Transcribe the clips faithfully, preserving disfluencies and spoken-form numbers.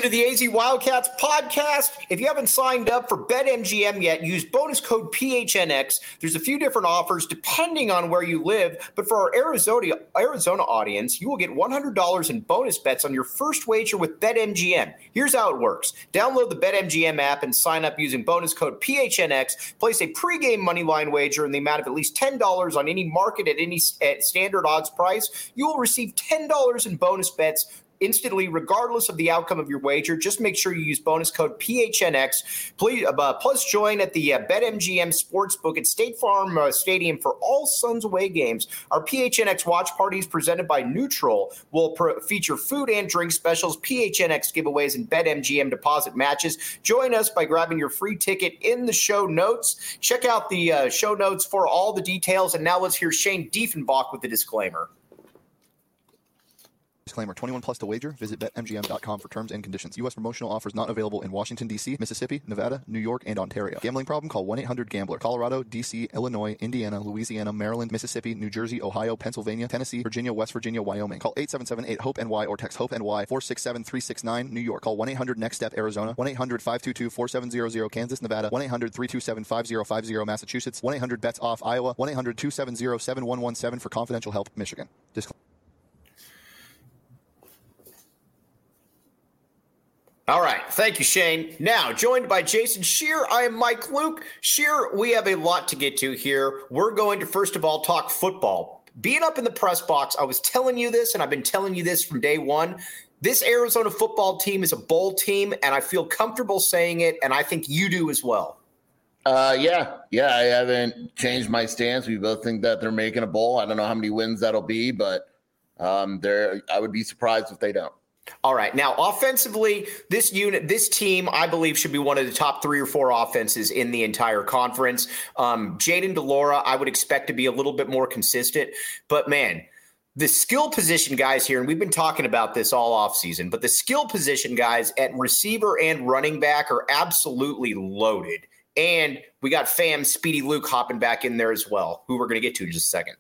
to the A Z Wildcats podcast. If you haven't signed up for BetMGM yet, use bonus code P H N X. There's a few different offers depending on where you live, but for our Arizona Arizona audience, you will get one hundred dollars in bonus bets on your first wager with BetMGM. Here's how it works. Download the BetMGM app and sign up using bonus code P H N X. Place a pregame moneyline wager in the amount of at least ten dollars on any market at any at standard odds price. You will receive ten dollars in bonus bets instantly, regardless of the outcome of your wager. Just make sure you use bonus code P H N X. Please, uh, plus join at the uh, BetMGM Sportsbook at State Farm uh, Stadium for all Suns away games. Our P H N X watch parties presented by Neutral will pro- feature food and drink specials, P H N X giveaways, and BetMGM deposit matches. Join us by grabbing your free ticket in the show notes. Check out the uh, show notes for all the details. And now let's hear Shane Diefenbach with the disclaimer. Disclaimer, twenty-one plus to wager. Visit Bet M G M dot com for terms and conditions. U S promotional offers not available in Washington, D C, Mississippi, Nevada, New York, and Ontario. Gambling problem? Call one eight hundred gambler. Colorado, D C, Illinois, Indiana, Louisiana, Maryland, Mississippi, New Jersey, Ohio, Pennsylvania, Tennessee, Virginia, West Virginia, Wyoming. Call eight seven seven eight hope N Y or text HOPE-NY four six seven three six nine. New York. Call one eight hundred next step Arizona. one eight hundred five two two four seven zero zero. Kansas, Nevada. one eight hundred three two seven five zero five zero. Massachusetts. one eight hundred bets off Iowa. one eight hundred two seven zero seven one one seven for confidential help. Michigan. Disclaimer. All right. Thank you, Shane. Now, joined by Jason Scheer, I am Mike Luke. Scheer, we have a lot to get to here. We're going to, first of all, talk football. Being up in the press box, I was telling you this, and I've been telling you this from day one. This Arizona football team is a bowl team, and I feel comfortable saying it, and I think you do as well. Uh, yeah. Yeah, I haven't changed my stance. We both think that they're making a bowl. I don't know how many wins that'll be, but um, they're, I would be surprised if they don't. All right. Now, offensively, this unit, this team, I believe, should be one of the top three or four offenses in the entire conference. Um, Jayden de Laura, I would expect to be a little bit more consistent. But, man, the skill position guys here, and we've been talking about this all offseason, but the skill position guys at receiver and running back are absolutely loaded. And we got fam Speedy Luke hopping back in there as well, who we're going to get to in just a second.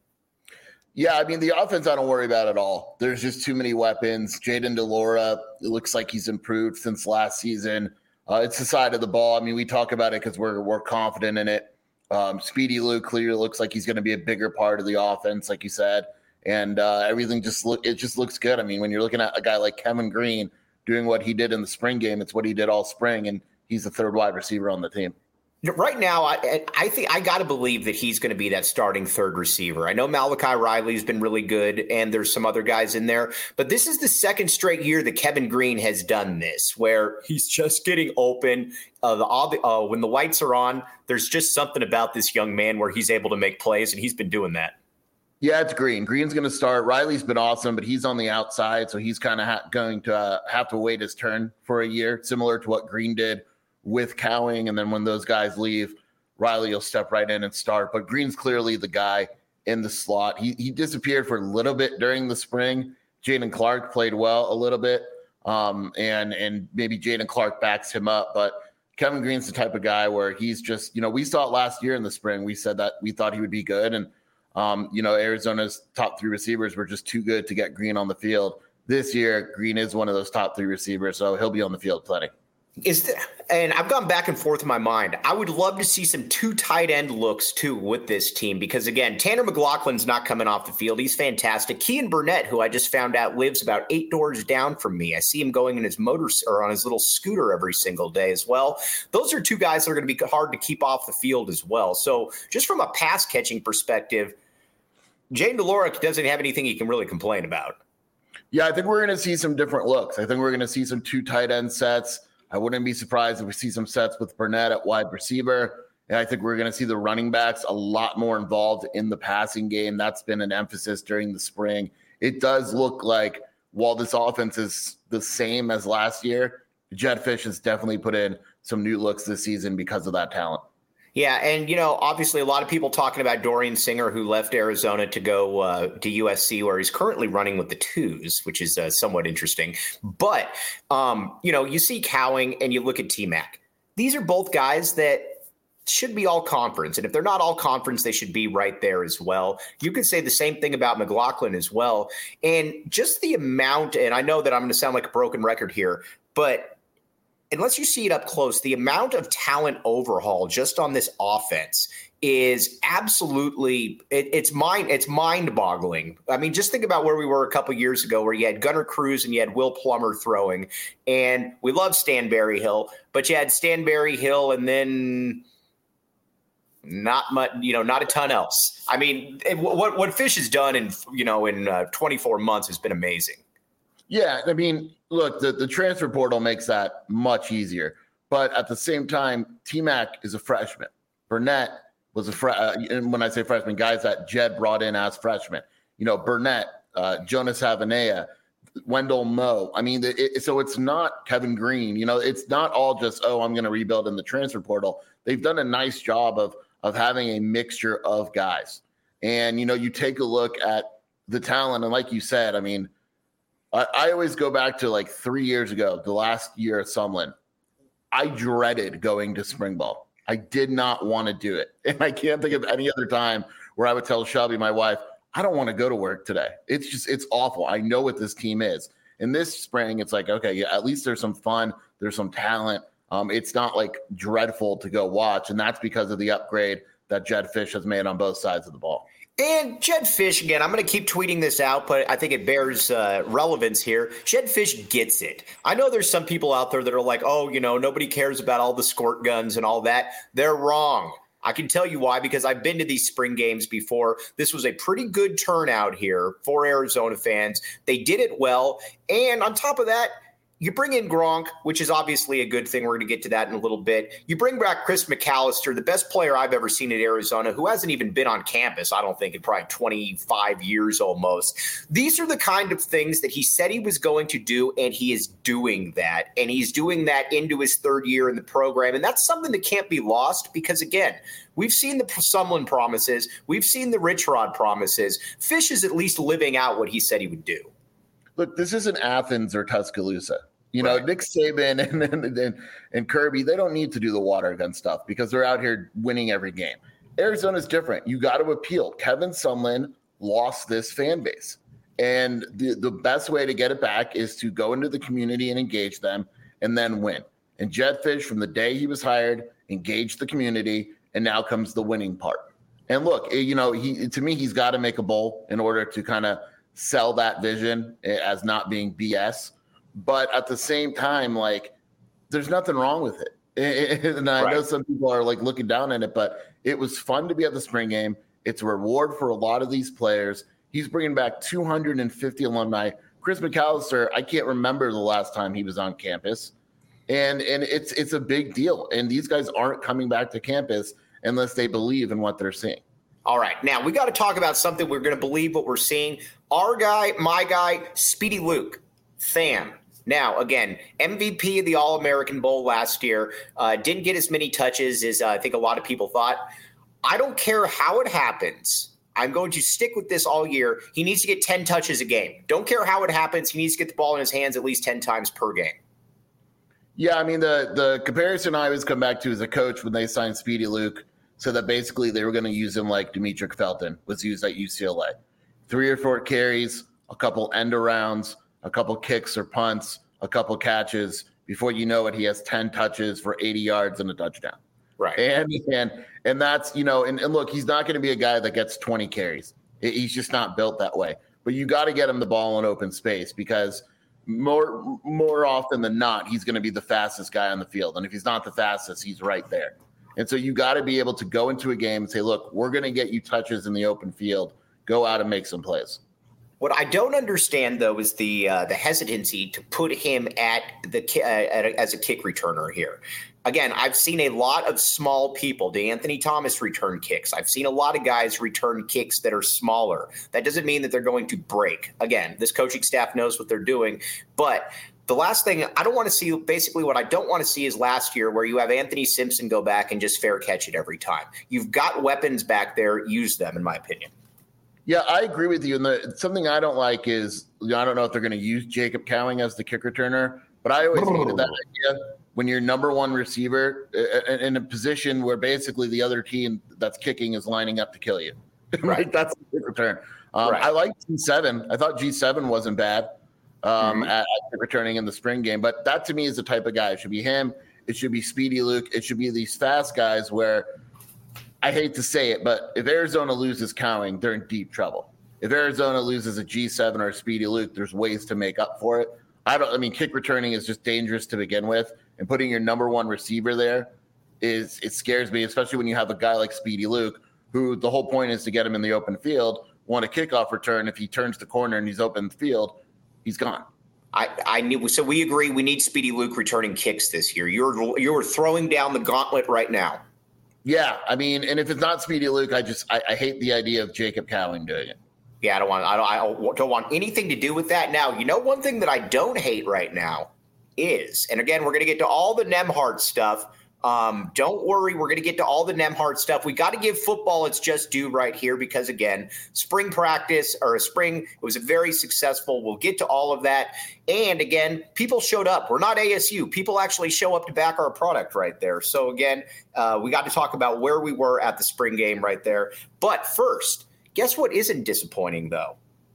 Yeah, I mean, the offense I don't worry about at all. There's just too many weapons. Jayden de Laura, it looks like he's improved since last season. Uh, it's the side of the ball. I mean, we talk about it because we're we're confident in it. Um, Speedy Luke clearly looks like he's going to be a bigger part of the offense, like you said. And uh, everything just look it just looks good. I mean, when you're looking at a guy like Kevin Green doing what he did in the spring game, it's what he did all spring, and he's the third wide receiver on the team. Right now, I, I think I got to believe that he's going to be that starting third receiver. I know Malachi Riley's been really good, and there's some other guys in there. But this is the second straight year that Kevin Green has done this, where he's just getting open. Uh, the uh, when the lights are on, there's just something about this young man where he's able to make plays, and he's been doing that. Yeah, it's Green. Green's going to start. Riley's been awesome, but he's on the outside, so he's kind of ha- going to uh, have to wait his turn for a year, similar to what Green did with Cowing, and then when those guys leave, Riley will step right in and start. But Green's clearly the guy in the slot. He he disappeared for a little bit during the spring. Jaden Clark played well a little bit, um, and and maybe Jaden Clark backs him up. But Kevin Green's the type of guy where he's just, you know, we saw it last year in the spring. We said that we thought he would be good, and um, you know, Arizona's top three receivers were just too good to get Green on the field. This year, Green is one of those top three receivers, so he'll be on the field plenty. Is the, and I've gone back and forth in my mind. I would love to see some two tight end looks too with this team because, again, Tanner McLaughlin's not coming off the field. He's fantastic. Kean Burnett, who I just found out lives about eight doors down from me. I see him going in his motor or on his little scooter every single day as well. Those are two guys that are going to be hard to keep off the field as well. So just from a pass catching perspective, Jayden de Laura doesn't have anything he can really complain about. Yeah, I think we're going to see some different looks. I think we're going to see some two tight end sets. I wouldn't be surprised if we see some sets with Burnett at wide receiver. And I think we're going to see the running backs a lot more involved in the passing game. That's been an emphasis during the spring. It does look like while this offense is the same as last year, Jedd Fisch has definitely put in some new looks this season because of that talent. Yeah, and, you know, obviously a lot of people talking about Dorian Singer, who left Arizona to go uh, to U S C, where he's currently running with the twos, which is uh, somewhat interesting. But, um, you know, you see Cowing and you look at T-Mac. These are both guys that should be all conference. And if they're not all conference, they should be right there as well. You could say the same thing about McLaughlin as well. And just the amount, and I know that I'm going to sound like a broken record here, but unless you see it up close, the amount of talent overhaul just on this offense is absolutely it, it's mind it's mind-boggling. I mean, just think about where we were a couple years ago, where you had Gunnar Cruz and you had Will Plummer throwing, and we love Stan Berryhill, but you had Stan Berryhill and then not much, you know, not a ton else. I mean, it, what what Fish has done in you know in uh, twenty-four months has been amazing. Yeah, I mean, look, the, the transfer portal makes that much easier. But at the same time, T-Mac is a freshman. Burnett was a fre- uh, and when I say freshman, guys that Jed brought in as freshmen. You know, Burnett, uh, Jonas Havanea, Wendell Moe. I mean, it, it, so it's not Kevin Green. You know, it's not all just, oh, I'm going to rebuild in the transfer portal. They've done a nice job of of having a mixture of guys. And, you know, you take a look at the talent, and like you said, I mean, I, I always go back to like three years ago, the last year at Sumlin. I dreaded going to spring ball. I did not want to do it. And I can't think of any other time where I would tell Shelby, my wife, I don't want to go to work today. It's just, it's awful. I know what this team is. And this spring, it's like, okay, yeah, at least there's some fun. There's some talent. Um, it's not like dreadful to go watch. And that's because of the upgrade that Jed Fish has made on both sides of the ball. And Jed Fish, again, I'm going to keep tweeting this out, but I think it bears uh, relevance here. Jed Fish gets it. I know there's some people out there that are like, oh, you know, nobody cares about all the squirt guns and all that. They're wrong. I can tell you why, because I've been to these spring games before. This was a pretty good turnout here for Arizona fans. They did it well. And on top of that, you bring in Gronk, which is obviously a good thing. We're going to get to that in a little bit. You bring back Chris McAllister, the best player I've ever seen at Arizona, who hasn't even been on campus, I don't think, in probably twenty-five years almost. These are the kind of things that he said he was going to do, and he is doing that. And he's doing that into his third year in the program. And that's something that can't be lost because, again, we've seen the Sumlin promises. We've seen the Rich Rod promises. Fish is at least living out what he said he would do. Look, this isn't Athens or Tuscaloosa. You know, right. Nick Saban and, and, and, and Kirby, they don't need to do the water gun stuff because they're out here winning every game. Arizona's different. You got to appeal. Kevin Sumlin lost this fan base. And the, the best way to get it back is to go into the community and engage them and then win. And Jed Fish, from the day he was hired, engaged the community, and now comes the winning part. And look, you know, he to me, he's got to make a bowl in order to kind of sell that vision as not being B S. But at the same time, like, there's nothing wrong with it. And I right. know some people are like looking down at it, but it was fun to be at the spring game. It's a reward for a lot of these players. He's bringing back two hundred fifty alumni. Chris McAllister, I can't remember the last time he was on campus. And and it's it's a big deal. And these guys aren't coming back to campus unless they believe in what they're seeing. All right. Now, we got to talk about something. We're going to believe what we're seeing. Our guy, my guy, Speedy Luke, Tham. Now, again, M V P of the All-American Bowl last year, uh, didn't get as many touches as uh, I think a lot of people thought. I don't care how it happens. I'm going to stick with this all year. He needs to get ten touches a game. Don't care how it happens. He needs to get the ball in his hands at least ten times per game. Yeah, I mean, the, the comparison I always come back to as a coach when they signed Speedy Luke, so that basically they were going to use him like Demetric Felton was used at U C L A. Three or four carries, a couple end arounds, a couple kicks or punts, a couple catches. Before you know it, he has ten touches for eighty yards and a touchdown. Right. And and and that's, you know, and, and look, he's not going to be a guy that gets twenty carries. He's just not built that way. But you got to get him the ball in open space because more more often than not, he's going to be the fastest guy on the field. And if he's not the fastest, he's right there. And so you got to be able to go into a game and say, look, we're going to get you touches in the open field. Go out and make some plays. What I don't understand, though, is the uh, the hesitancy to put him at the uh, at a, as a kick returner here. Again, I've seen a lot of small people. DeAnthony Thomas return kicks. I've seen a lot of guys return kicks that are smaller. That doesn't mean that they're going to break. Again, this coaching staff knows what they're doing. But the last thing I don't want to see, basically what I don't want to see is last year where you have Anthony Simpson go back and just fair catch it every time. You've got weapons back there. Use them, in my opinion. Yeah, I agree with you. And the, something I don't like is, you know, I don't know if they're going to use Jacob Cowing as the kick returner, but I always hated that idea when you're number one receiver in a position where basically the other team that's kicking is lining up to kill you. Right. That's the kick return. Um, right. I like G seven. I thought G seven wasn't bad. um, mm-hmm. at, at returning in the spring game. But that to me is the type of guy. It should be him. It should be Speedy Luke. It should be these fast guys where I hate to say it, but if Arizona loses Cowing, they're in deep trouble. If Arizona loses a G seven or a Speedy Luke, there's ways to make up for it. I don't. I mean, kick returning is just dangerous to begin with, and putting your number one receiver there is it scares me, especially when you have a guy like Speedy Luke, who the whole point is to get him in the open field. Want a kickoff return? If he turns the corner and he's open the field, he's gone. I, I knew. So we agree. We need Speedy Luke returning kicks this year. You're you're throwing down the gauntlet right now. Yeah, I mean, and if it's not Speedy Luke, I just I, I hate the idea of Jacob Cowing doing it. Yeah, I don't want I don't I don't want anything to do with that. Now, you know, one thing that I don't hate right now is, and again, we're going to get to all the Nembhard stuff. Um, don't worry, we're going to get to all the Nembhard stuff. We got to give football its just due right here because, again, spring practice or a spring, it was a very successful. We'll get to all of that. And, again, people showed up. We're not A S U. People actually show up to back our product right there. So, again, uh, we got to talk about where we were at the spring game right there. But first, guess what isn't disappointing, though?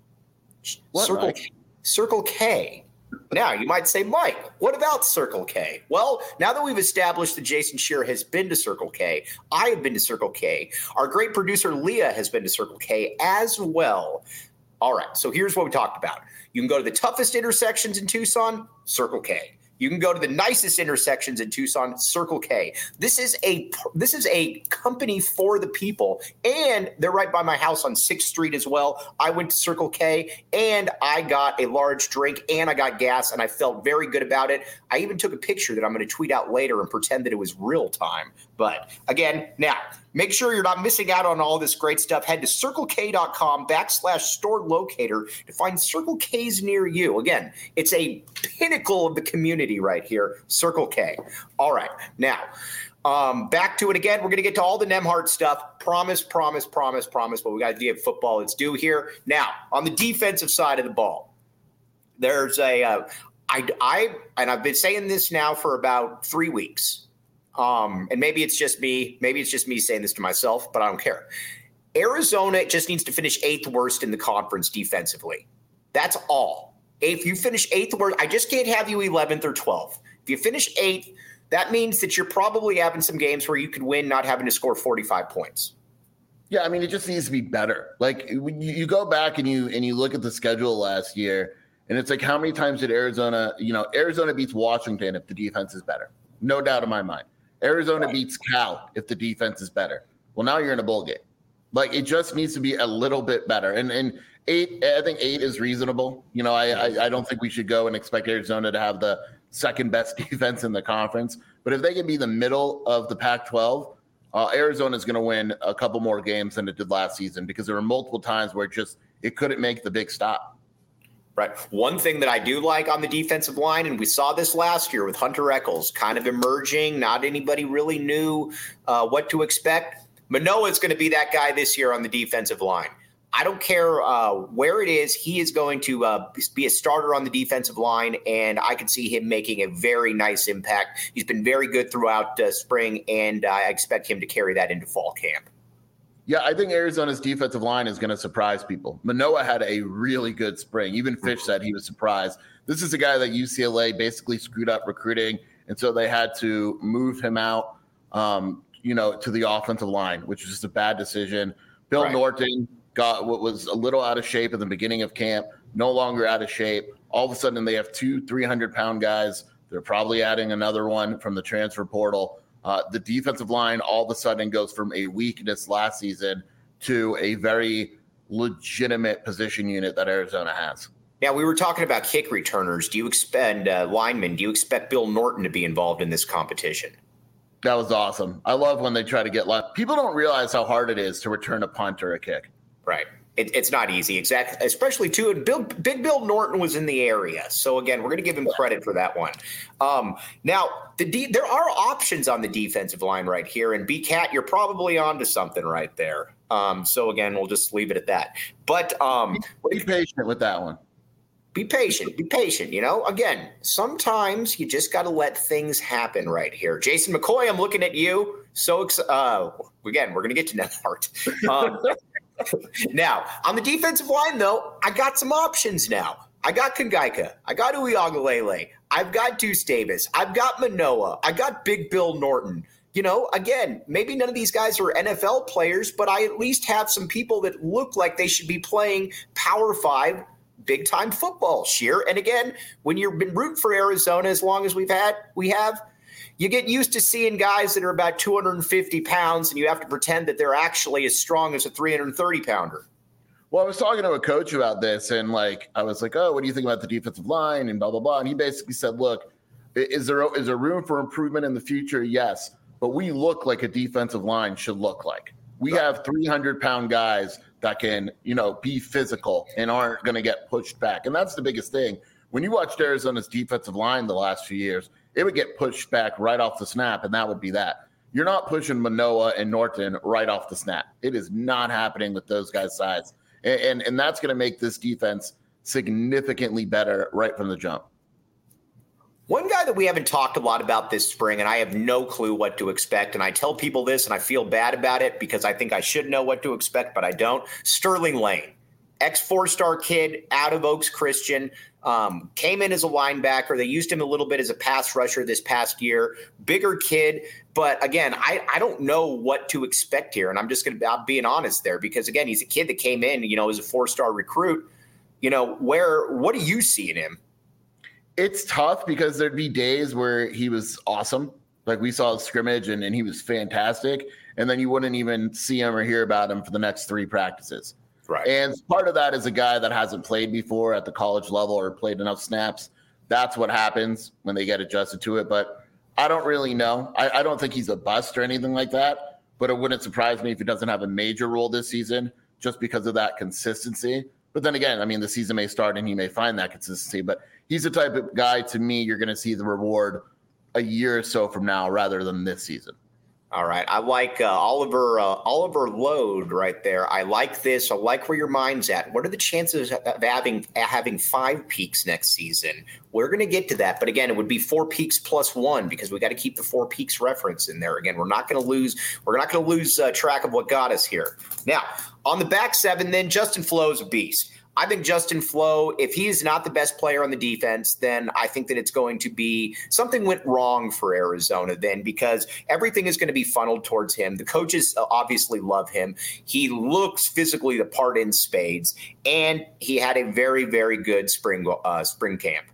What, Circle, Mike? Circle K. Now, you might say, Mike, what about Circle K? Well, now that we've established that Jason Scheer has been to Circle K, I have been to Circle K. Our great producer, Leah, has been to Circle K as well. All right, so here's what we talked about. You can go to the toughest intersections in Tucson, Circle K. You can go to the nicest intersections in Tucson, Circle K. This is a this is a company for the people, and they're right by my house on sixth Street as well. I went to Circle K, and I got a large drink, and I got gas, and I felt very good about it. I even took a picture that I'm going to tweet out later and pretend that it was real time. But again, now, make sure you're not missing out on all this great stuff. Head to circlek.com backslash store locator to find Circle K's near you. Again, it's a pinnacle of the community right here, Circle K. All right. Now, um, back to it again. We're going to get to all the Nembhard stuff. Promise, promise, promise, promise. But we got to give football its due here. Now, on the defensive side of the ball, there's a uh, I, I, and I've been saying this now for about three weeks. Um, and maybe it's just me. Maybe it's just me saying this to myself, but I don't care. Arizona just needs to finish eighth worst in the conference defensively. That's all. If you finish eighth worst, I just can't have you eleventh or twelfth. If you finish eighth, that means that you're probably having some games where you could win not having to score forty-five points. Yeah, I mean, it just needs to be better. Like when you, you go back and you and you look at the schedule last year, and it's like how many times did Arizona, you know, Arizona beats Washington if the defense is better. No doubt in my mind. Arizona right. beats Cal if the defense is better. Well, now you're in a bowl game. Like it just needs to be a little bit better. And and eight, I think eight is reasonable. You know, I, I I don't think we should go and expect Arizona to have the second best defense in the conference. But if they can be the middle of the Pac twelve, uh, Arizona is going to win a couple more games than it did last season because there were multiple times where it just it couldn't make the big stop. Right. One thing that I do like on the defensive line, and we saw this last year with Hunter Echols kind of emerging, not anybody really knew uh, what to expect. Manoah is going to be that guy this year on the defensive line. I don't care uh, where it is. He is going to uh, be a starter on the defensive line, and I can see him making a very nice impact. He's been very good throughout uh, spring, and I expect him to carry that into fall camp. Yeah, I think Arizona's defensive line is going to surprise people. Manoah had a really good spring. Even Fish said he was surprised. This is a guy that U C L A basically screwed up recruiting, and so they had to move him out, um, you know, to the offensive line, which was just a bad decision. Bill right. Norton got what was a little out of shape at the beginning of camp, no longer out of shape. All of a sudden, they have two three hundred pound guys. They're probably adding another one from the transfer portal. Uh, the defensive line all of a sudden goes from a weakness last season to a very legitimate position unit that Arizona has. Now, we were talking about kick returners. Do you expect uh, linemen? Do you expect Bill Norton to be involved in this competition? That was awesome. I love when they try to get left. People don't realize how hard it is to return a punt or a kick. Right. It, it's not easy, exactly. Especially too. And Bill, Big Bill Norton was in the area, so again, we're going to give him credit for that one. Um, now, the de- there are options on the defensive line right here, and B-Cat, you're probably onto something right there. Um, so again, we'll just leave it at that. But um, be patient with that one. Be patient. Be patient. You know, again, sometimes you just got to let things happen right here. Jason McCoy, I'm looking at you. So ex- uh, again, we're going to get to Nembhard. Um, Now, on the defensive line, though, I got some options now. I got Kangaika. I got Uiagalelei. I've got Deuce Davis. I've got Manoa. I got Big Bill Norton. You know, again, maybe none of these guys are N F L players, but I at least have some people that look like they should be playing Power Five big-time football, Scheer. And again, when you've been rooting for Arizona as long as we've had, we have, you get used to seeing guys that are about two hundred fifty pounds, and you have to pretend that they're actually as strong as a three hundred thirty pounder. Well, I was talking to a coach about this, and like I was like, "Oh, what do you think about the defensive line?" and blah blah blah. And he basically said, "Look, is there is there room for improvement in the future? Yes, but we look like a defensive line should look like. We right. have three hundred pound guys that can, you know, be physical and aren't going to get pushed back, and that's the biggest thing. When you watched Arizona's defensive line the last few years, it would get pushed back right off the snap, and that would be that. You're not pushing Manoa and Norton right off the snap. It is not happening with those guys' size." And, and, and that's going to make this defense significantly better right from the jump. One guy that we haven't talked a lot about this spring, and I have no clue what to expect, and I tell people this, and I feel bad about it because I think I should know what to expect, but I don't. Sterling Lane, ex-four-star kid out of Oaks Christian, um, came in as a linebacker. They used him a little bit as a pass rusher this past year. Bigger kid. But again, I, I don't know what to expect here. And I'm just going to be being honest there because, again, he's a kid that came in, you know, as a four-star recruit. You know, where what do you see in him? It's tough because there'd be days where he was awesome. Like we saw a scrimmage and, and he was fantastic. And then you wouldn't even see him or hear about him for the next three practices. Right. And part of that is a guy that hasn't played before at the college level or played enough snaps. That's what happens when they get adjusted to it. But I don't really know. I, I don't think he's a bust or anything like that. But it wouldn't surprise me if he doesn't have a major role this season just because of that consistency. But then again, I mean, the season may start and he may find that consistency. But he's the type of guy, to me, you're going to see the reward a year or so from now rather than this season. All right. I like uh, Oliver uh, Oliver Lode right there. I like this. I like where your mind's at. What are the chances of having having five peaks next season? We're going to get to that. But again, it would be four peaks plus one because we got to keep the four peaks reference in there. Again, we're not going to lose. We're not going to lose uh, track of what got us here. Now, on the back seven, then Justin Flowe is a beast. I think Justin Flowe, if he is not the best player on the defense, then I think that it's going to be something went wrong for Arizona then because everything is going to be funneled towards him. The coaches obviously love him. He looks physically the part in spades, and he had a very, very good spring uh, spring camp.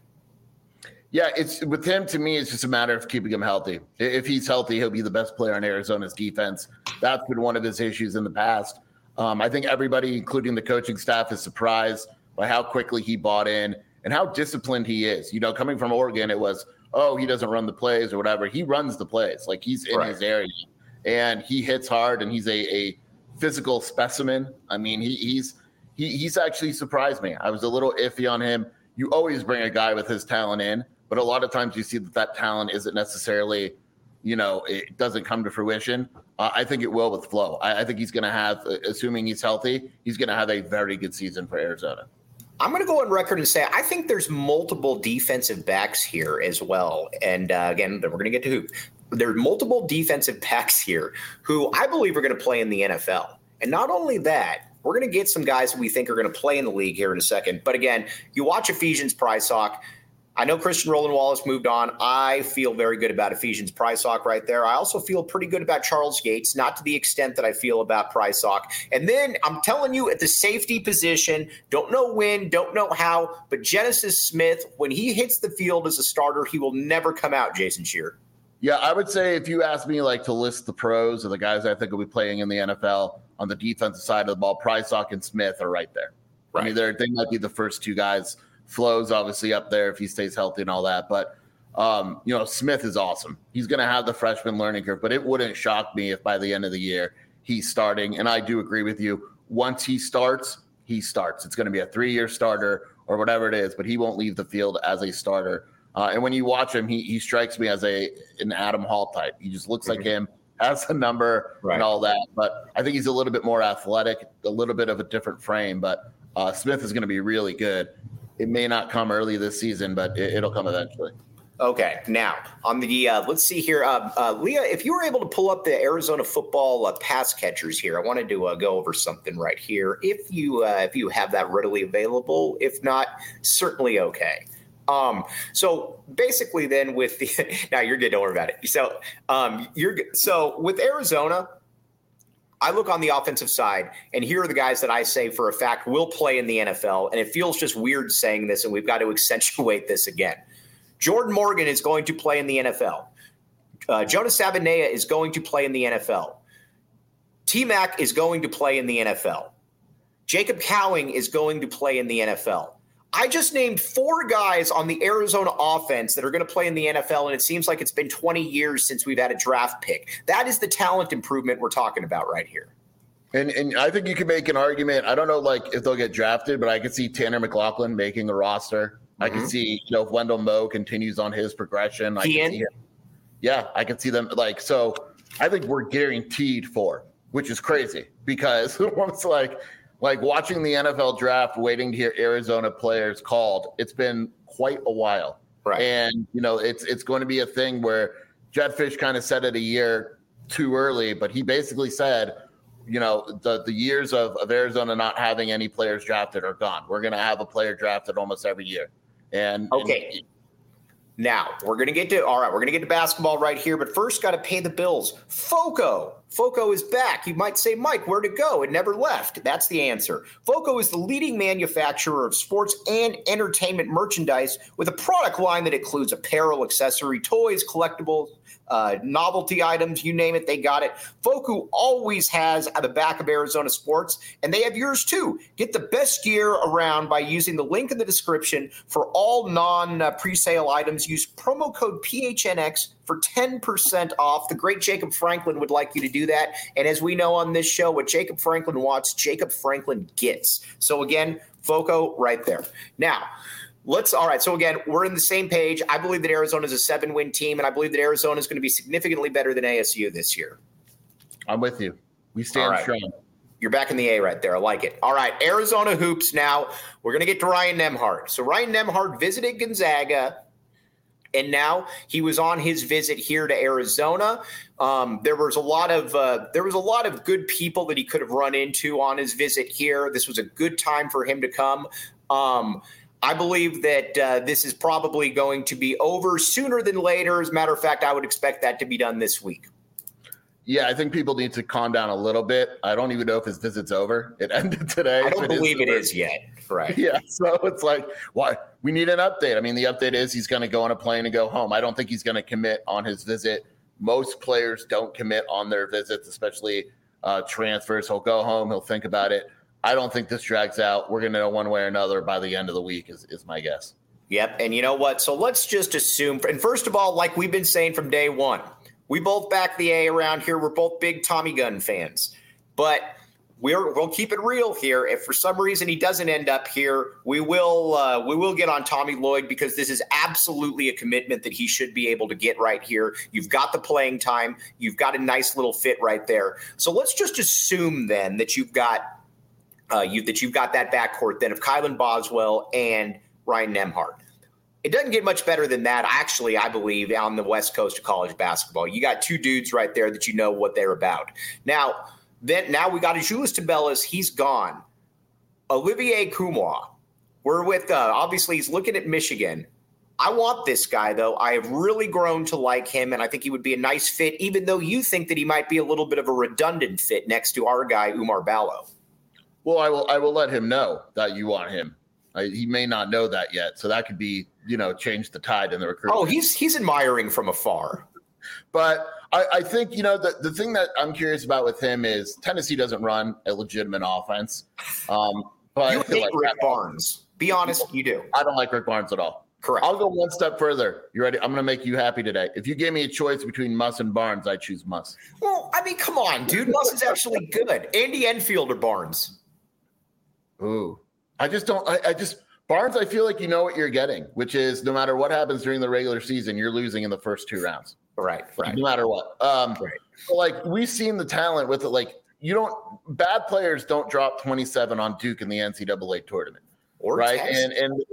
Yeah, it's with him, to me, it's just a matter of keeping him healthy. If he's healthy, he'll be the best player on Arizona's defense. That's been one of his issues in the past. Um, I think everybody, including the coaching staff, is surprised by how quickly he bought in and how disciplined he is. You know, coming from Oregon, it was, oh, he doesn't run the plays or whatever. He runs the plays. Like, he's in right. his area. And he hits hard, and he's a, a physical specimen. I mean, he, he's he, he's actually surprised me. I was a little iffy on him. You always bring a guy with his talent in, but a lot of times you see that that talent isn't necessarily, you know, it doesn't come to fruition. Uh, I think it will with Flowe. I, I think he's going to have, assuming he's healthy, he's going to have a very good season for Arizona. I'm going to go on record and say I think there's multiple defensive backs here as well. And uh, again, we're going to get to who. There are multiple defensive backs here who I believe are going to play in the N F L. And not only that, we're going to get some guys that we think are going to play in the league here in a second. But again, you watch Ephesians Prysock. I know Christian Roland Wallace moved on. I feel very good about Ephesians Prysock right there. I also feel pretty good about Charles Gates, not to the extent that I feel about Prysock. And then I'm telling you, at the safety position, don't know when, don't know how, but Genesis Smith, when he hits the field as a starter, he will never come out, Jason Scheer. Yeah, I would say if you ask me like to list the pros or the guys I think will be playing in the N F L on the defensive side of the ball, Prysock and Smith are right there. Right. I mean, they're, they might be the first two guys. Flo's obviously up there if he stays healthy and all that. But, um, you know, Smith is awesome. He's going to have the freshman learning curve, but it wouldn't shock me if by the end of the year he's starting. And I do agree with you. Once he starts, he starts. It's going to be a three-year starter or whatever it is, but he won't leave the field as a starter. Uh, and when you watch him, he he strikes me as a an Adam Hall type. He just looks mm-hmm. like him, has a number right. and all that. But I think he's a little bit more athletic, a little bit of a different frame. But uh, Smith is going to be really good. It may not come early this season, but it, it'll come eventually. Okay, now on the uh, let's see here, uh, uh, Leah. If you were able to pull up the Arizona football uh, pass catchers here, I wanted to uh, go over something right here. If you uh, if you have that readily available, if not, certainly okay. Um, so basically, then with the now you're good. Don't worry about it. So um, you're so with Arizona. I look on the offensive side, and here are the guys that I say for a fact will play in the N F L, and it feels just weird saying this, and we've got to accentuate this again. Jordan Morgan is going to play in the N F L. Uh, Jonas Savaiinaea is going to play in the N F L. T-Mac is going to play in the N F L. Jacob Cowing is going to play in the N F L. I just named four guys on the Arizona offense that are going to play in the N F L, and it seems like it's been twenty years since we've had a draft pick. That is the talent improvement we're talking about right here. And and I think you can make an argument. I don't know, like, if they'll get drafted, but I could see Tanner McLaughlin making a roster. Mm-hmm. I can see, you know, if Wendell Moe continues on his progression. I can see him. Yeah, I can see them. Like, so I think we're guaranteed four, which is crazy because it's like, like watching the N F L draft, waiting to hear Arizona players called. It's been quite a while. Right. And, you know, it's it's going to be a thing where Jedd Fisch kind of said it a year too early, but he basically said, you know, the, the years of, of Arizona not having any players drafted are gone. We're going to have a player drafted almost every year. And okay. And, now we're going to get to, all right, we're going to get to basketball right here, but first got to pay the bills. Foco. Foco is back. You might say, Mike, where'd it go? It never left. That's the answer. Foco is the leading manufacturer of sports and entertainment merchandise with a product line that includes apparel, accessory, toys, collectibles, uh, novelty items, you name it, they got it. Foco always has at the back of Arizona sports, and they have yours too. Get the best gear around by using the link in the description for all non-presale items. Use promo code P H N X for ten percent off. The great Jacob Franklin would like you to do that. And as we know on this show, what Jacob Franklin wants, Jacob Franklin gets. So again, Foco right there. Now, let's, all right, so again, we're in the same page. I believe that Arizona is a seven-win team, and I believe that Arizona is going to be significantly better than A S U this year. I'm with you. We stand right. strong. You're back in the A right there. I like it. All right, Arizona hoops now. We're going to get to Ryan Nembhard. So Ryan Nembhard visited Gonzaga, and now he was on his visit here to Arizona. Um, there was a lot of uh, there was a lot of good people that he could have run into on his visit here. This was a good time for him to come. Um, I believe that uh, this is probably going to be over sooner than later. As a matter of fact, I would expect that to be done this week. Yeah, I think people need to calm down a little bit. I don't even know if his visit's over. It ended today. I don't it believe is it is yet. Right. Yeah, so it's like, why? We need an update. I mean, the update is he's going to go on a plane and go home. I don't think he's going to commit on his visit. Most players don't commit on their visits, especially uh, transfers. He'll go home. He'll think about it. I don't think this drags out. We're going to know one way or another by the end of the week is, is my guess. Yep. And you know what? So let's just assume, and first of all, like we've been saying from day one, we both back the A around here. We're both big Tommy Gunn fans, but we're, we'll keep it real here. If for some reason he doesn't end up here, we will uh, we will get on Tommy Lloyd because this is absolutely a commitment that he should be able to get right here. You've got the playing time. You've got a nice little fit right there. So let's just assume then that you've got uh, you that you've got that backcourt then of Kylan Boswell and Ryan Nembhard. It doesn't get much better than that, actually, I believe, on the West Coast of college basketball. You got two dudes right there that you know what they're about. Now, then now we got Azuolas Tubelis. He's gone. Olivier Nkamhoua. We're with, uh, obviously, he's looking at Michigan. I want this guy, though. I have really grown to like him, and I think he would be a nice fit, even though you think that he might be a little bit of a redundant fit next to our guy, Oumar Ballo. Well, I will I will let him know that you want him. I, he may not know that yet, so that could be, you know, change the tide in the recruitment. Oh, he's he's admiring from afar. But I, I think, you know, the, the thing that I'm curious about with him is Tennessee doesn't run a legitimate offense. Um, but you hate like, Rick Barnes. Be honest, you do. I don't like Rick Barnes at all. Correct. I'll go one step further. You ready? I'm going to make you happy today. If you gave me a choice between Muss and Barnes, I choose Muss. Well, I mean, come on, dude. Muss is actually good. Andy Enfield or Barnes? Ooh. I just don't I, – I just – Barnes, I feel like you know what you're getting, which is no matter what happens during the regular season, you're losing in the first two rounds. Right, right. No matter what. Um, right. So like, we've seen the talent with it. Like, you don't – bad players don't drop twenty-seven on Duke in the N C double A tournament. Or right? Texas. And – and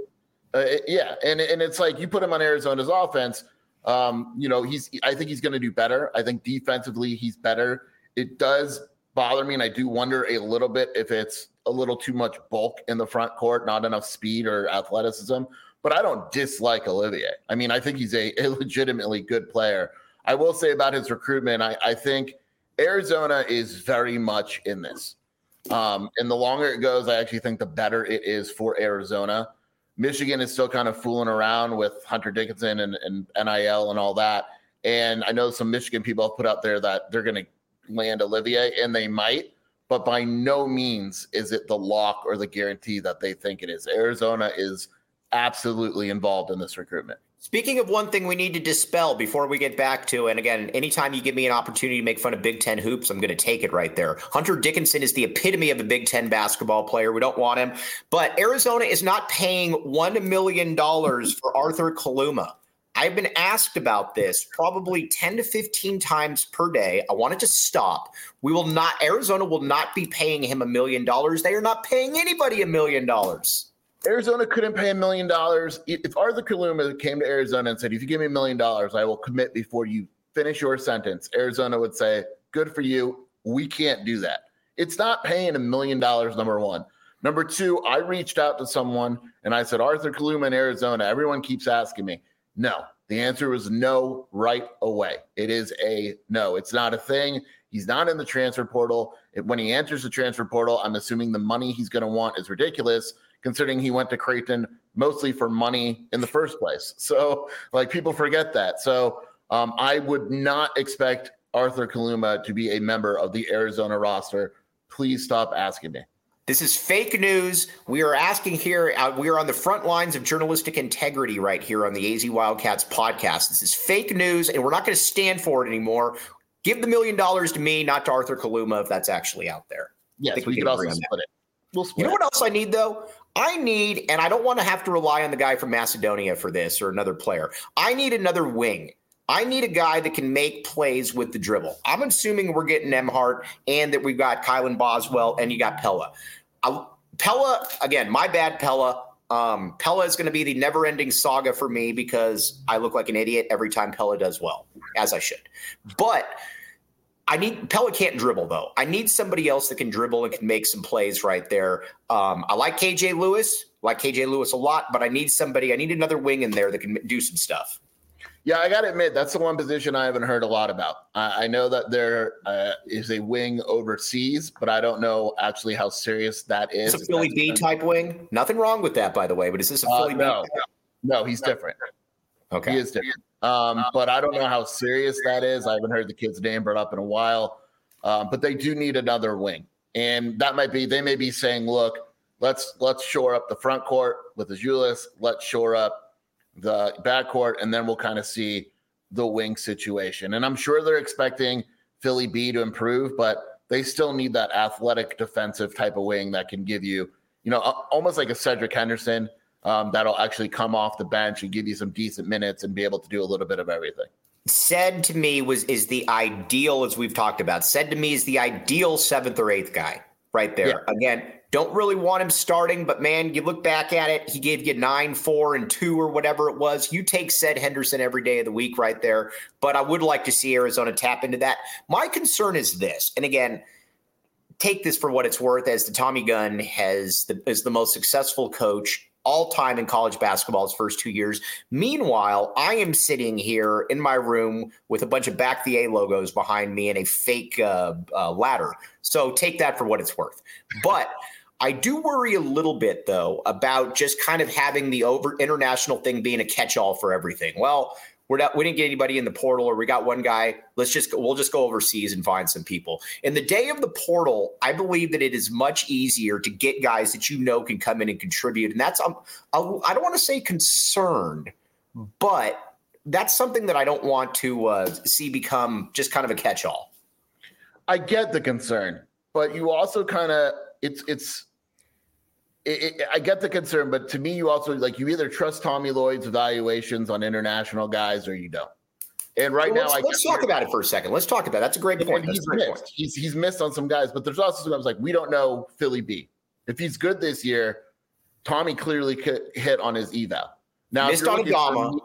Uh, yeah, and and it's like you put him on Arizona's offense. Um, you know, he's. I think he's going to do better. I think defensively he's better. It does bother me, and I do wonder a little bit if it's a little too much bulk in the front court, not enough speed or athleticism. But I don't dislike Olivier. I mean, I think he's a, a legitimately good player. I will say about his recruitment, I, I think Arizona is very much in this. Um, and the longer it goes, I actually think the better it is for Arizona. Michigan is still kind of fooling around with Hunter Dickinson and, and N I L and all that. And I know some Michigan people have put out there that they're going to land Olivier, and they might. But by no means is it the lock or the guarantee that they think it is. Arizona is absolutely involved in this recruitment. Speaking of one thing we need to dispel before we get back to, and again, anytime you give me an opportunity to make fun of Big Ten hoops, I'm going to take it right there. Hunter Dickinson is the epitome of a Big Ten basketball player. We don't want him. But Arizona is not paying one million dollars for Arthur Kaluma. I've been asked about this probably ten to fifteen times per day. I want it to stop. We will not, Arizona will not be paying him a million dollars. They are not paying anybody a million dollars. Arizona couldn't pay a million dollars. If Arthur Kaluma came to Arizona and said, if you give me a million dollars, I will commit before you finish your sentence, Arizona would say, good for you. We can't do that. It's not paying a million dollars, number one. Number two, I reached out to someone and I said, Arthur Kaluma in Arizona. Everyone keeps asking me. No, the answer was no right away. It is a no. It's not a thing. He's not in the transfer portal. When he enters the transfer portal, I'm assuming the money he's going to want is ridiculous, considering he went to Creighton mostly for money in the first place. So, like, people forget that. So um, I would not expect Arthur Kaluma to be a member of the Arizona roster. Please stop asking me. This is fake news. We are asking here. Uh, we are on the front lines of journalistic integrity right here on the A Z Wildcats podcast. This is fake news, and we're not going to stand for it anymore. Give the million dollars to me, not to Arthur Kaluma, if that's actually out there. Yes, we, we could also split it. We'll split you know it. what else I need, though? I need, and I don't want to have to rely on the guy from Macedonia for this or another player. I need another wing. I need a guy that can make plays with the dribble. I'm assuming we're getting Nembhard and that we've got Kylan Boswell and you got Pella. I, Pella, again, my bad, Pella. Um, Pella is going to be the never-ending saga for me because I look like an idiot every time Pella does well, as I should. But I need Pella can't dribble, though. I need somebody else that can dribble and can make some plays right there. Um, I like K J Lewis, like K J Lewis a lot, but I need somebody. I need another wing in there that can do some stuff. Yeah, I got to admit, that's the one position I haven't heard a lot about. I, I know that there uh, is a wing overseas, but I don't know actually how serious that is. It's a Philly B type wing. Nothing wrong with that, by the way, but is this a Philly uh, no, B? No, he's different. Okay. He is different. Um, but I don't know how serious that is. I haven't heard the kid's name brought up in a while. Um, but they do need another wing. And that might be, they may be saying, look, let's let's shore up the front court with Azuolas. Let's shore up the backcourt, and then we'll kind of see the wing situation. And I'm sure they're expecting Philly B to improve, but they still need that athletic defensive type of wing that can give you, you know, almost like a Cedric Henderson um, that'll actually come off the bench and give you some decent minutes and be able to do a little bit of everything. Said to me was is the ideal, as we've talked about, said to me is the ideal seventh or eighth guy right there. Yeah. Again, don't really want him starting, but man, you look back at it, he gave you nine, four, and two or whatever it was. You take Ced Henderson every day of the week right there, but I would like to see Arizona tap into that. My concern is this, and again, take this for what it's worth, as the Tommy Gunn has the, is the most successful coach all time in college basketball his first two years. Meanwhile, I am sitting here in my room with a bunch of Back the A logos behind me and a fake uh, uh, ladder. So take that for what it's worth. But I do worry a little bit, though, about just kind of having the over international thing being a catch-all for everything. Well, we're not, we didn't get anybody in the portal, or we got one guy. Let's just go, we'll just go overseas and find some people. In the day of the portal, I believe that it is much easier to get guys that you know can come in and contribute. And that's, um, I don't want to say concerned, but that's something that I don't want to uh, see become just kind of a catch-all. I get the concern, but you also kind of, it's, it's, It, it, I get the concern, but to me, you also like you either trust Tommy Lloyd's evaluations on international guys or you don't. And right well, now, let's, I let's talk about it for a second. Let's talk about it. That's a great point. He's a great missed. Point. He's he's missed on some guys, but there's also sometimes like we don't know Philly B. If he's good this year, Tommy clearly hit on his eval. Now, missed on Agama.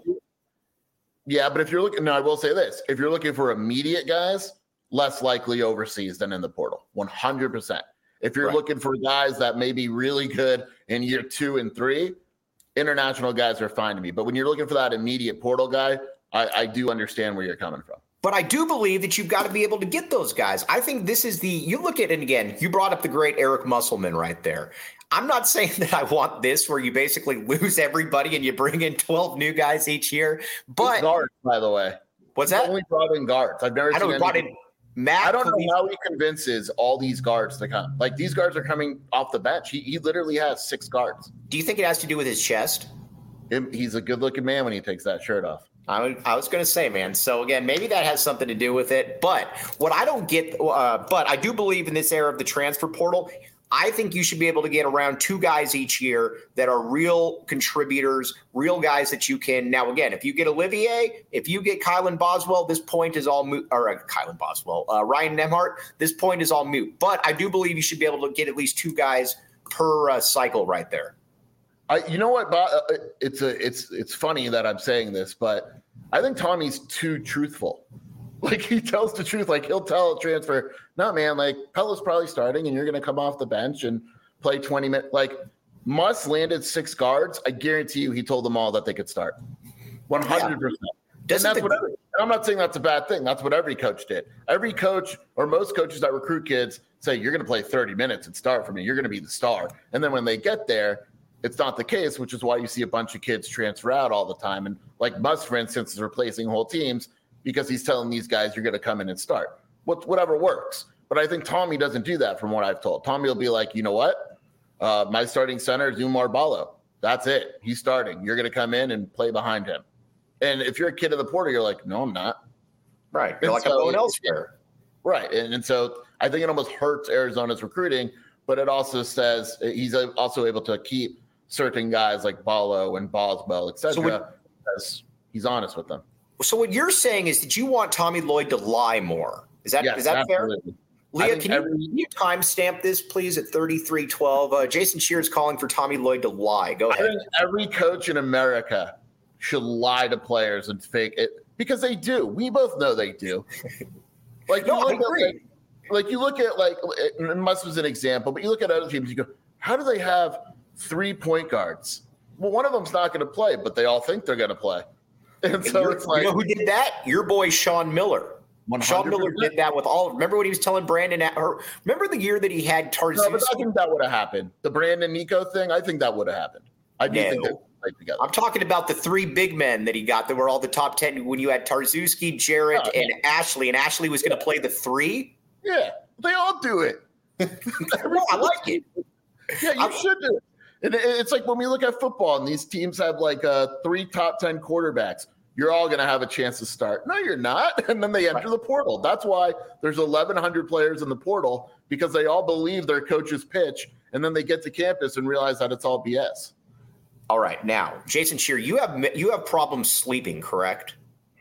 Yeah, but if you're looking, no, I will say this. If you're looking for immediate guys, less likely overseas than in the portal, one hundred percent. If you're right. looking for guys that may be really good in year two and three, international guys are fine to me. But when you're looking for that immediate portal guy, I, I do understand where you're coming from. But I do believe that you've got to be able to get those guys. I think this is the, you look at it again, you brought up the great Eric Musselman right there. I'm not saying that I want this where you basically lose everybody and you bring in twelve new guys each year. But guards, by the way. What's that? He's only brought in guards. I've never I seen know, brought in Matt. I don't know how he convinces all these guards to come. Like, these guards are coming off the bench. He, he literally has six guards. Do you think it has to do with his chest? He's a good-looking man when he takes that shirt off. I, I was going to say, man. So, again, maybe that has something to do with it. But what I don't get uh, – but I do believe in this era of the transfer portal – I think you should be able to get around two guys each year that are real contributors, real guys that you can. Now, again, if you get Olivier, if you get Kylan Boswell, this point is all moot. Or uh, Kylan Boswell, uh, Ryan Nembhard, this point is all moot. But I do believe you should be able to get at least two guys per uh, cycle right there. I, you know what, Bob? It's a, it's, it's funny that I'm saying this, but I think Tommy's too truthful. Like, he tells the truth. Like, he'll tell a transfer, no, man, like, Pella's probably starting and you're going to come off the bench and play twenty minutes. Like, Muss landed six guards. I guarantee you he told them all that they could start. one hundred percent. Yeah. And that's what every, I'm not saying that's a bad thing. That's what every coach did. Every coach or most coaches that recruit kids say, you're going to play thirty minutes and start for me. You're going to be the star. And then when they get there, it's not the case, which is why you see a bunch of kids transfer out all the time. And like Muss, for instance, is replacing whole teams because he's telling these guys you're going to come in and start. What, whatever works. But I think Tommy doesn't do that from what I've told. Tommy will be like, you know what? Uh, my starting center is Umar Ballo. That's it. He's starting. You're going to come in and play behind him. And if you're a kid of the portal, you're like, no, I'm not. Right. You're and like so, a Bowen elsewhere. Right. And, and so I think it almost hurts Arizona's recruiting, but it also says he's also able to keep certain guys like Ballo and Boswell, et cetera, so because he's honest with them. So what you're saying is that you want Tommy Lloyd to lie more. Is that yes, is that absolutely. fair? Leah, can, every, you, can you timestamp this, please, at thirty-three twelve? Uh, Jason Scheer is calling for Tommy Lloyd to lie. Go ahead. I think every coach in America should lie to players and fake it because they do. We both know they do. Like, no, you look I agree. At, like, like you look at, like, and Muss was an example, but you look at other teams, you go, how do they have three point guards? Well, one of them's not going to play, but they all think they're going to play. And so and it's like, you know who did that? Your boy Sean Miller. one hundred percent. Sean Miller did that with all. Remember what he was telling Brandon? Or remember the year that he had Tarzus? No, but I think that would have happened. The Brandon Nico thing. I think that would have happened. I do no. think they played together. I'm talking about the three big men that he got that were all the top ten. When you had Tarzuski, Jarrett, oh, and yeah. Ashley, and Ashley was going to play the three. Yeah, they all do it. No, I like it. Yeah, you I'm, should do it. And it's like when we look at football and these teams have like uh, three top ten quarterbacks. You're all going to have a chance to start. No, you're not. And then they enter right. the portal. That's why there's eleven hundred players in the portal, because they all believe their coach's pitch. And then they get to campus and realize that it's all B S. All right. Now, Jason Scheer, you have you have problems sleeping, correct?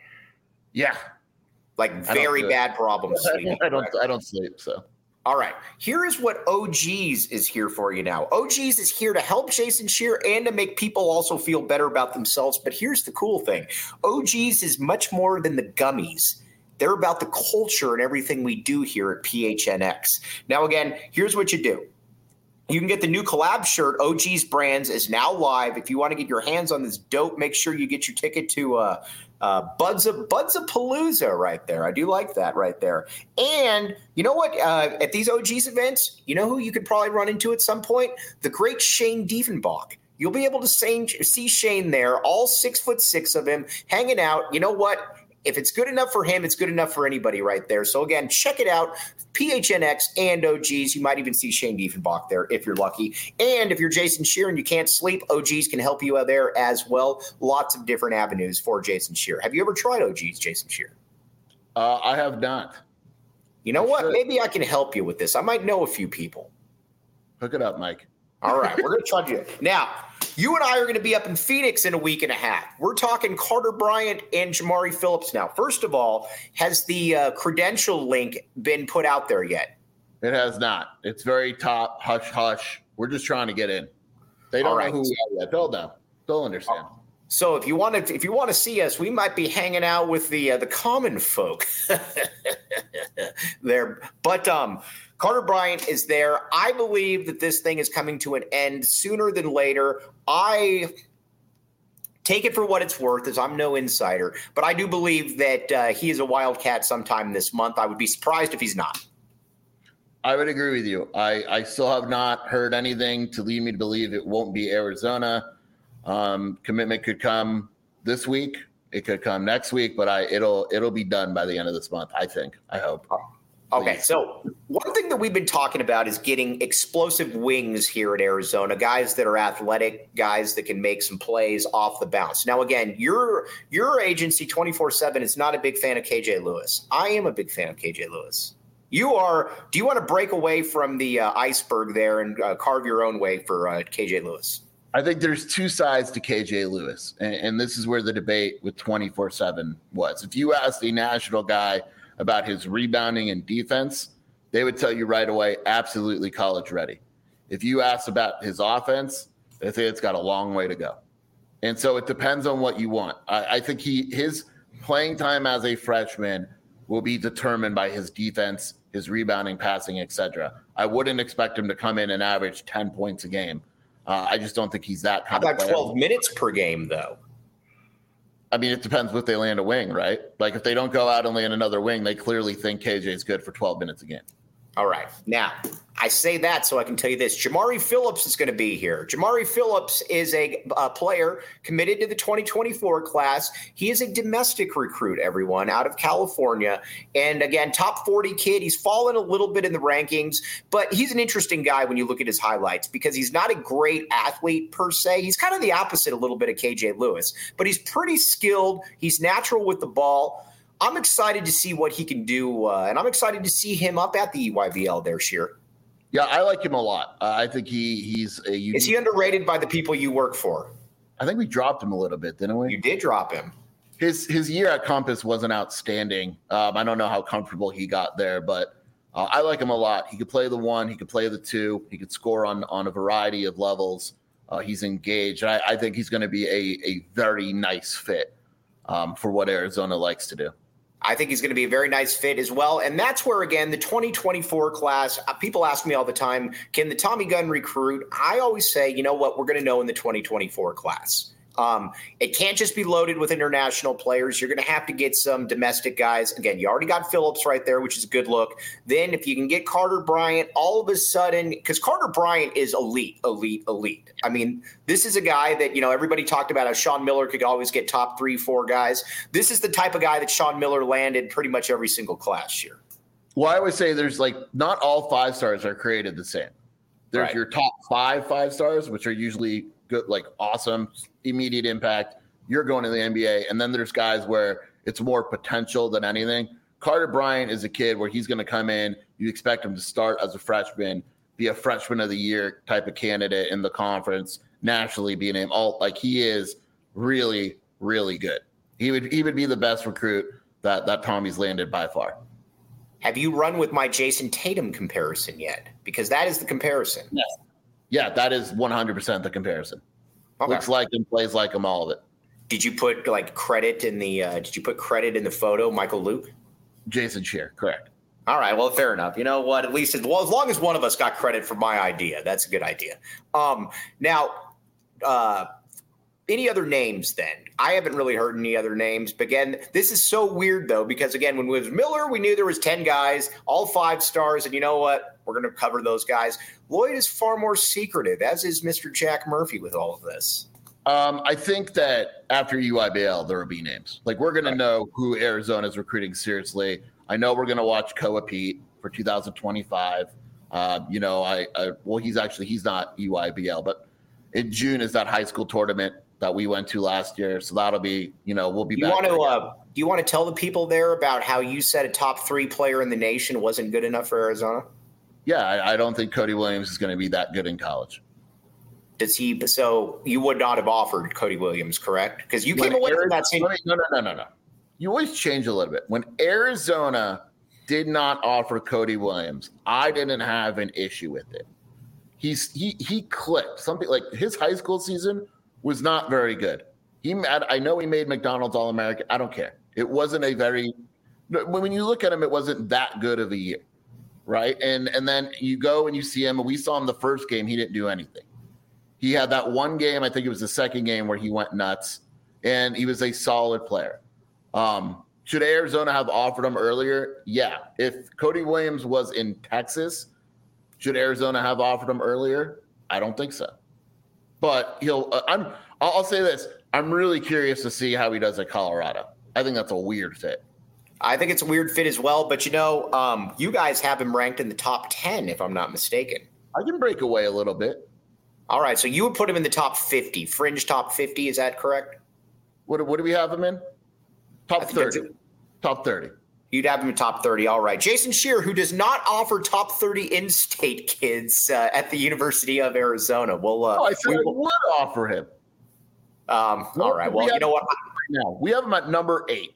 Yeah. Like very bad problems sleeping. I don't, I don't sleep, so. All right. Here is what O Gs is here for you now. O Gs is here to help Jason Scheer and to make people also feel better about themselves. But here's the cool thing. O Gs is much more than the gummies. They're about the culture and everything we do here at P H N X. Now, again, here's what you do. You can get the new collab shirt. O Gs Brands is now live. If you want to get your hands on this dope, make sure you get your ticket to uh, uh, Buds of Buds of Palooza right there. I do like that right there. And you know what? Uh, at these O Gs events, you know who you could probably run into at some point? The great Shane Diefenbach. You'll be able to see Shane there, all six foot six of him, hanging out. You know what? If it's good enough for him, it's good enough for anybody right there. So, again, check it out. P H N X and O Gs. You might even see Shane Diefenbach there if you're lucky. And if you're Jason Scheer and you can't sleep, O Gs can help you out there as well. Lots of different avenues for Jason Scheer. Have you ever tried O Gs, Jason Scheer? Uh, I have not. You know I what? Should. Maybe I can help you with this. I might know a few people. Hook it up, Mike. All right. We're going to try to do it. Now, you and I are going to be up in Phoenix in a week and a half. We're talking Carter Bryant and Jamari Phillips now. First of all, has the uh, credential link been put out there yet? It has not. It's very top, hush, hush. We're just trying to get in. They don't All know right. who we are yet. They'll know. They'll understand. So if you want to, if you want to see us, we might be hanging out with the uh, the common folk there. But um, Carter Bryant is there. I believe that this thing is coming to an end sooner than later. I take it for what it's worth, as I'm no insider, but I do believe that uh, he is a Wildcat sometime this month. I would be surprised if he's not. I would agree with you. I, I still have not heard anything to lead me to believe it won't be Arizona. Um, commitment could come this week. It could come next week, but I it'll it'll be done by the end of this month. I think. I hope. Okay, so one thing that we've been talking about is getting explosive wings here at Arizona, guys that are athletic, guys that can make some plays off the bounce. Now, again, your your agency twenty-four seven is not a big fan of K J Lewis. I am a big fan of K J Lewis. You are. Do you want to break away from the uh, iceberg there and uh, carve your own way for uh, K J Lewis? I think there's two sides to K J Lewis, and, and this is where the debate with twenty-four seven was. If you asked a national guy about his rebounding and defense, they would tell you right away, absolutely college ready. If you ask about his offense, they say it's got a long way to go. And so it depends on what you want. I, I think he his playing time as a freshman will be determined by his defense, his rebounding, passing, et cetera. I wouldn't expect him to come in and average ten points a game. Uh, I just don't think he's that kind How of about player. twelve minutes per game, though? I mean, it depends if they land a wing, right? Like if they don't go out and land another wing, they clearly think K J is good for twelve minutes a game. All right. Now, I say that so I can tell you this. Jamari Phillips is going to be here. Jamari Phillips is a, a player committed to the twenty twenty-four class. He is a domestic recruit, everyone, out of California. And again, top forty kid. He's fallen a little bit in the rankings, but he's an interesting guy when you look at his highlights because he's not a great athlete per se. He's kind of the opposite a little bit of K J Lewis, but he's pretty skilled. He's natural with the ball. I'm excited to see what he can do, uh, and I'm excited to see him up at the E Y B L there, Sheer. Yeah, I like him a lot. Uh, I think he he's a unique. Is he underrated by the people you work for? I think we dropped him a little bit, didn't we? You did drop him. His his year at Compass wasn't outstanding. Um, I don't know how comfortable he got there, but uh, I like him a lot. He could play the one, he could play the two, he could score on on a variety of levels. Uh, he's engaged. I, I think he's going to be a a very nice fit um, for what Arizona likes to do. I think he's going to be a very nice fit as well. And that's where, again, the twenty twenty-four class, uh, people ask me all the time, can the Tommy Gunn recruit? I always say, you know what, we're going to know in the twenty twenty-four class. Um, it can't just be loaded with international players. You're going to have to get some domestic guys. Again, you already got Phillips right there, which is a good look. Then if you can get Carter Bryant, all of a sudden, because Carter Bryant is elite, elite, elite. I mean, this is a guy that, you know, everybody talked about how Sean Miller could always get top three, four guys. This is the type of guy that Sean Miller landed pretty much every single class year. Well, I would say there's like not all five stars are created the same. There's Right. your top five five stars, which are usually good, like awesome, immediate impact. You're going to the N B A. And then there's guys where it's more potential than anything. Carter Bryant is a kid where he's going to come in. You expect him to start as a freshman, be a freshman of the year type of candidate in the conference, nationally be named all. Like he is really, really good. He would he would be the best recruit that that Tommy's landed by far. Have you run with my Jason Tatum comparison yet? Because that is the comparison. Yes. Yeah, that is one hundred percent the comparison. Okay. Looks like him, plays like him, all of it. Did you put like credit in the uh, did you put credit in the photo, Michael Luke? Jason Shear, correct. All right, well, fair enough. You know what? At least as well as long as one of us got credit for my idea, that's a good idea. Um, now, uh, any other names then? I haven't really heard any other names. But again, this is so weird, though, because, again, when it was Miller, we knew there was ten guys, all five stars. And you know what? We're going to cover those guys. Lloyd is far more secretive, as is Mister Jack Murphy with all of this. Um, I think that after U I B L, there will be names. Like, we're going right. to know who Arizona is recruiting seriously. I know we're going to watch Koa Pete for two thousand twenty-five. Uh, you know, I, I well, he's actually, he's not U I B L, but in June is that high school tournament that we went to last year. So that'll be, you know, we'll be you back. Want to, uh, do you want to tell the people there about how you said a top three player in the nation wasn't good enough for Arizona? Yeah, I, I don't think Cody Williams is going to be that good in college. Does he? So you would not have offered Cody Williams, correct? Because you when came away Arizona, from that same. No, no, no, no, no. You always change a little bit. When Arizona did not offer Cody Williams, I didn't have an issue with it. he's he he clicked. Something like his high school season was not very good. He I know he made McDonald's All-American. I don't care. It wasn't a very when you look at him, it wasn't that good of a year, right? And and then you go and you see him, and we saw him the first game. He didn't do anything. He had that one game, I think it was the second game, where he went nuts, and he was a solid player. Um, should Arizona have offered him earlier? Yeah. If Cody Williams was in Texas, should Arizona have offered him earlier? I don't think so. But he'll. Uh, I'm. I'll, I'll say this. I'm really curious to see how he does at Colorado. I think that's a weird fit. I think it's a weird fit as well. But you know, um, you guys have him ranked in the top ten, if I'm not mistaken. I can break away a little bit. All right, so you would put him in the top fifty, fringe top fifty. Is that correct? What what do we have him in? Top thirty. Top thirty. You'd have him in top thirty. All right. Jason Scheer, who does not offer top thirty in-state kids uh, at the University of Arizona. We'll, uh, oh, I said we I will, would offer him. Um, all right. Well, we you know what? Now we have him at number eight.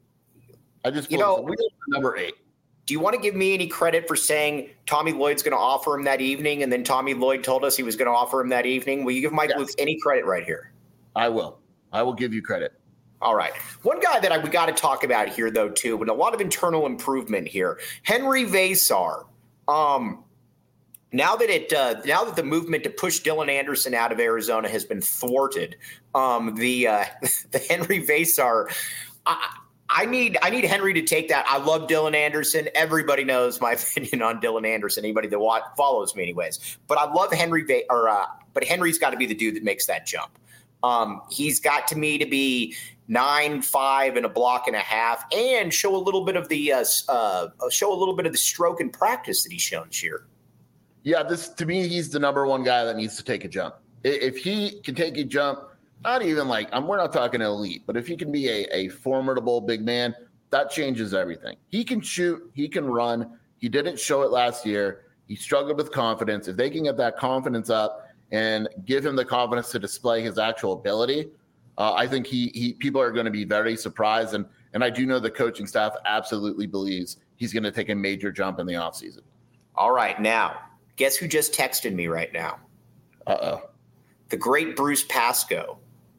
I just you know we have number eight. Do you want to give me any credit for saying Tommy Lloyd's going to offer him that evening, and then Tommy Lloyd told us he was going to offer him that evening? Will you give Mike yes. Luke any credit right here? I will. I will give you credit. All right. One guy that I, we got to talk about here, though, too, and a lot of internal improvement here, Henry Vesar. Um, now that it, uh, now that the movement to push Dylan Anderson out of Arizona has been thwarted, um, the uh, the Henry Vesar. I, I need I need Henry to take that. I love Dylan Anderson. Everybody knows my opinion on Dylan Anderson. Anybody that wa- follows me, anyways. But I love Henry. Va- or uh, but Henry's got to be the dude that makes that jump. Um, he's got to me to be nine five and a block and a half, and show a little bit of the uh, uh, show a little bit of the stroke in practice that he's shown this year. Yeah, this to me, he's the number one guy that needs to take a jump. If he can take a jump. Not even like I'm, we're not talking elite, but if he can be a, a formidable big man, that changes everything. He can shoot, he can run. He didn't show it last year. He struggled with confidence. If they can get that confidence up and give him the confidence to display his actual ability, uh, I think he he people are going to be very surprised. And and I do know the coaching staff absolutely believes he's going to take a major jump in the offseason. All right, now guess who just texted me right now? Uh oh, the great Bruce Pascoe.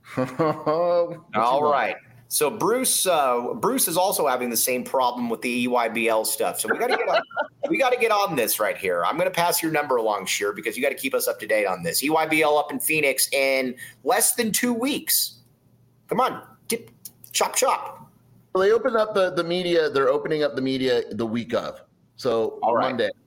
All right. So Bruce, uh, Bruce is also having the same problem with the E Y B L stuff. So we got to get on, we got to get on this right here. I'm going to pass your number along, Scheer, because you got to keep us up to date on this. E Y B L up in Phoenix in less than two weeks. Come on, dip, chop chop. Well, they opened up the the media. They're opening up the media the week of. So All right. Monday.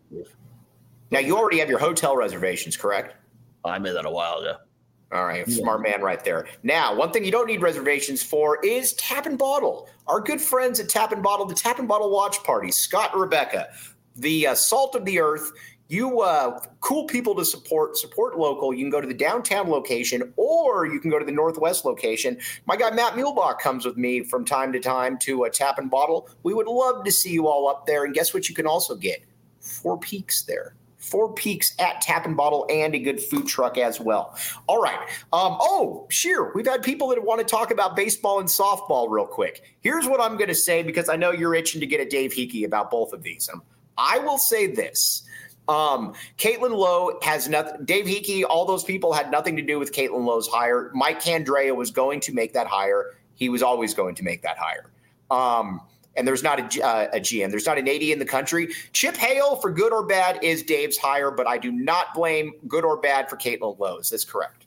Now you already have your hotel reservations, correct? I made that a while ago. All right, smart man right there. Now, one thing you don't need reservations for is Tap and Bottle. Our good friends at Tap and Bottle, the Tap and Bottle Watch Party, Scott and Rebecca, the uh, salt of the earth. You uh, cool people to support, support local. You can go to the downtown location, or you can go to the northwest location. My guy Matt Muehlbach comes with me from time to time to uh, Tap and Bottle. We would love to see you all up there. And guess what you can also get? Four Peaks there. Four Peaks at Tap and Bottle, and a good food truck as well. All right. Um, oh, Scheer, we've had people that want to talk about baseball and softball real quick. Here's what I'm going to say, because I know you're itching to get at Dave Hickey about both of these. Um, I will say this. Um, Caitlin Lowe has nothing. Dave Hickey, all those people had nothing to do with Caitlin Lowe's hire. Mike Candrea was going to make that hire. He was always going to make that hire. Um, And there's not a, uh, a G M. There's not an A D in the country. Chip Hale, for good or bad, is Dave's hire, but I do not blame good or bad for Caitlin Lowe. Is this correct?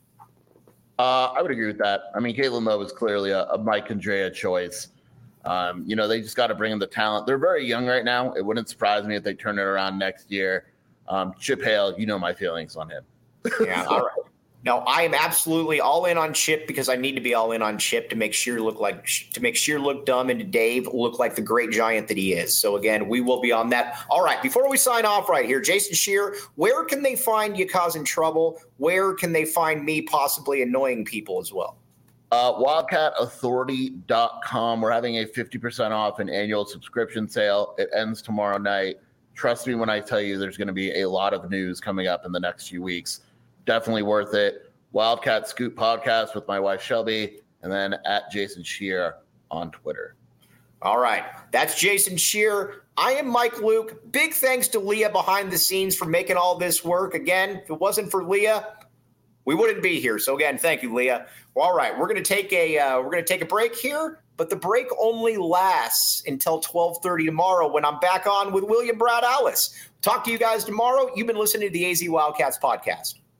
Uh, I would agree with that. I mean, Caitlin Lowe is clearly a, a Mike Candrea choice. Um, you know, they just got to bring in the talent. They're very young right now. It wouldn't surprise me if they turn it around next year. Um, Chip Hale, you know my feelings on him. Yeah, all right. No, I am absolutely all in on Chip, because I need to be all in on Chip to make Scheer look like to make Scheer look dumb and to Dave look like the great giant that he is. So again, we will be on that. All right, before we sign off right here, Jason Scheer, where can they find you causing trouble? Where can they find me possibly annoying people as well? Uh, wildcat authority dot com. We're having a fifty percent off an annual subscription sale. It ends tomorrow night. Trust me when I tell you there's going to be a lot of news coming up in the next few weeks. Definitely worth it. Wildcat Scoop podcast with my wife Shelby, and then at Jason Scheer on Twitter. All right. That's Jason Scheer. I am Mike Luke. Big thanks to Leah behind the scenes for making all this work. Again, if it wasn't for Leah, we wouldn't be here. So again, thank you, Leah. Well, all right, we're going to take a uh, we're going to take a break here, but the break only lasts until twelve thirty tomorrow when I'm back on with William Brad Allis. Talk to you guys tomorrow. You've been listening to the A Z Wildcats podcast.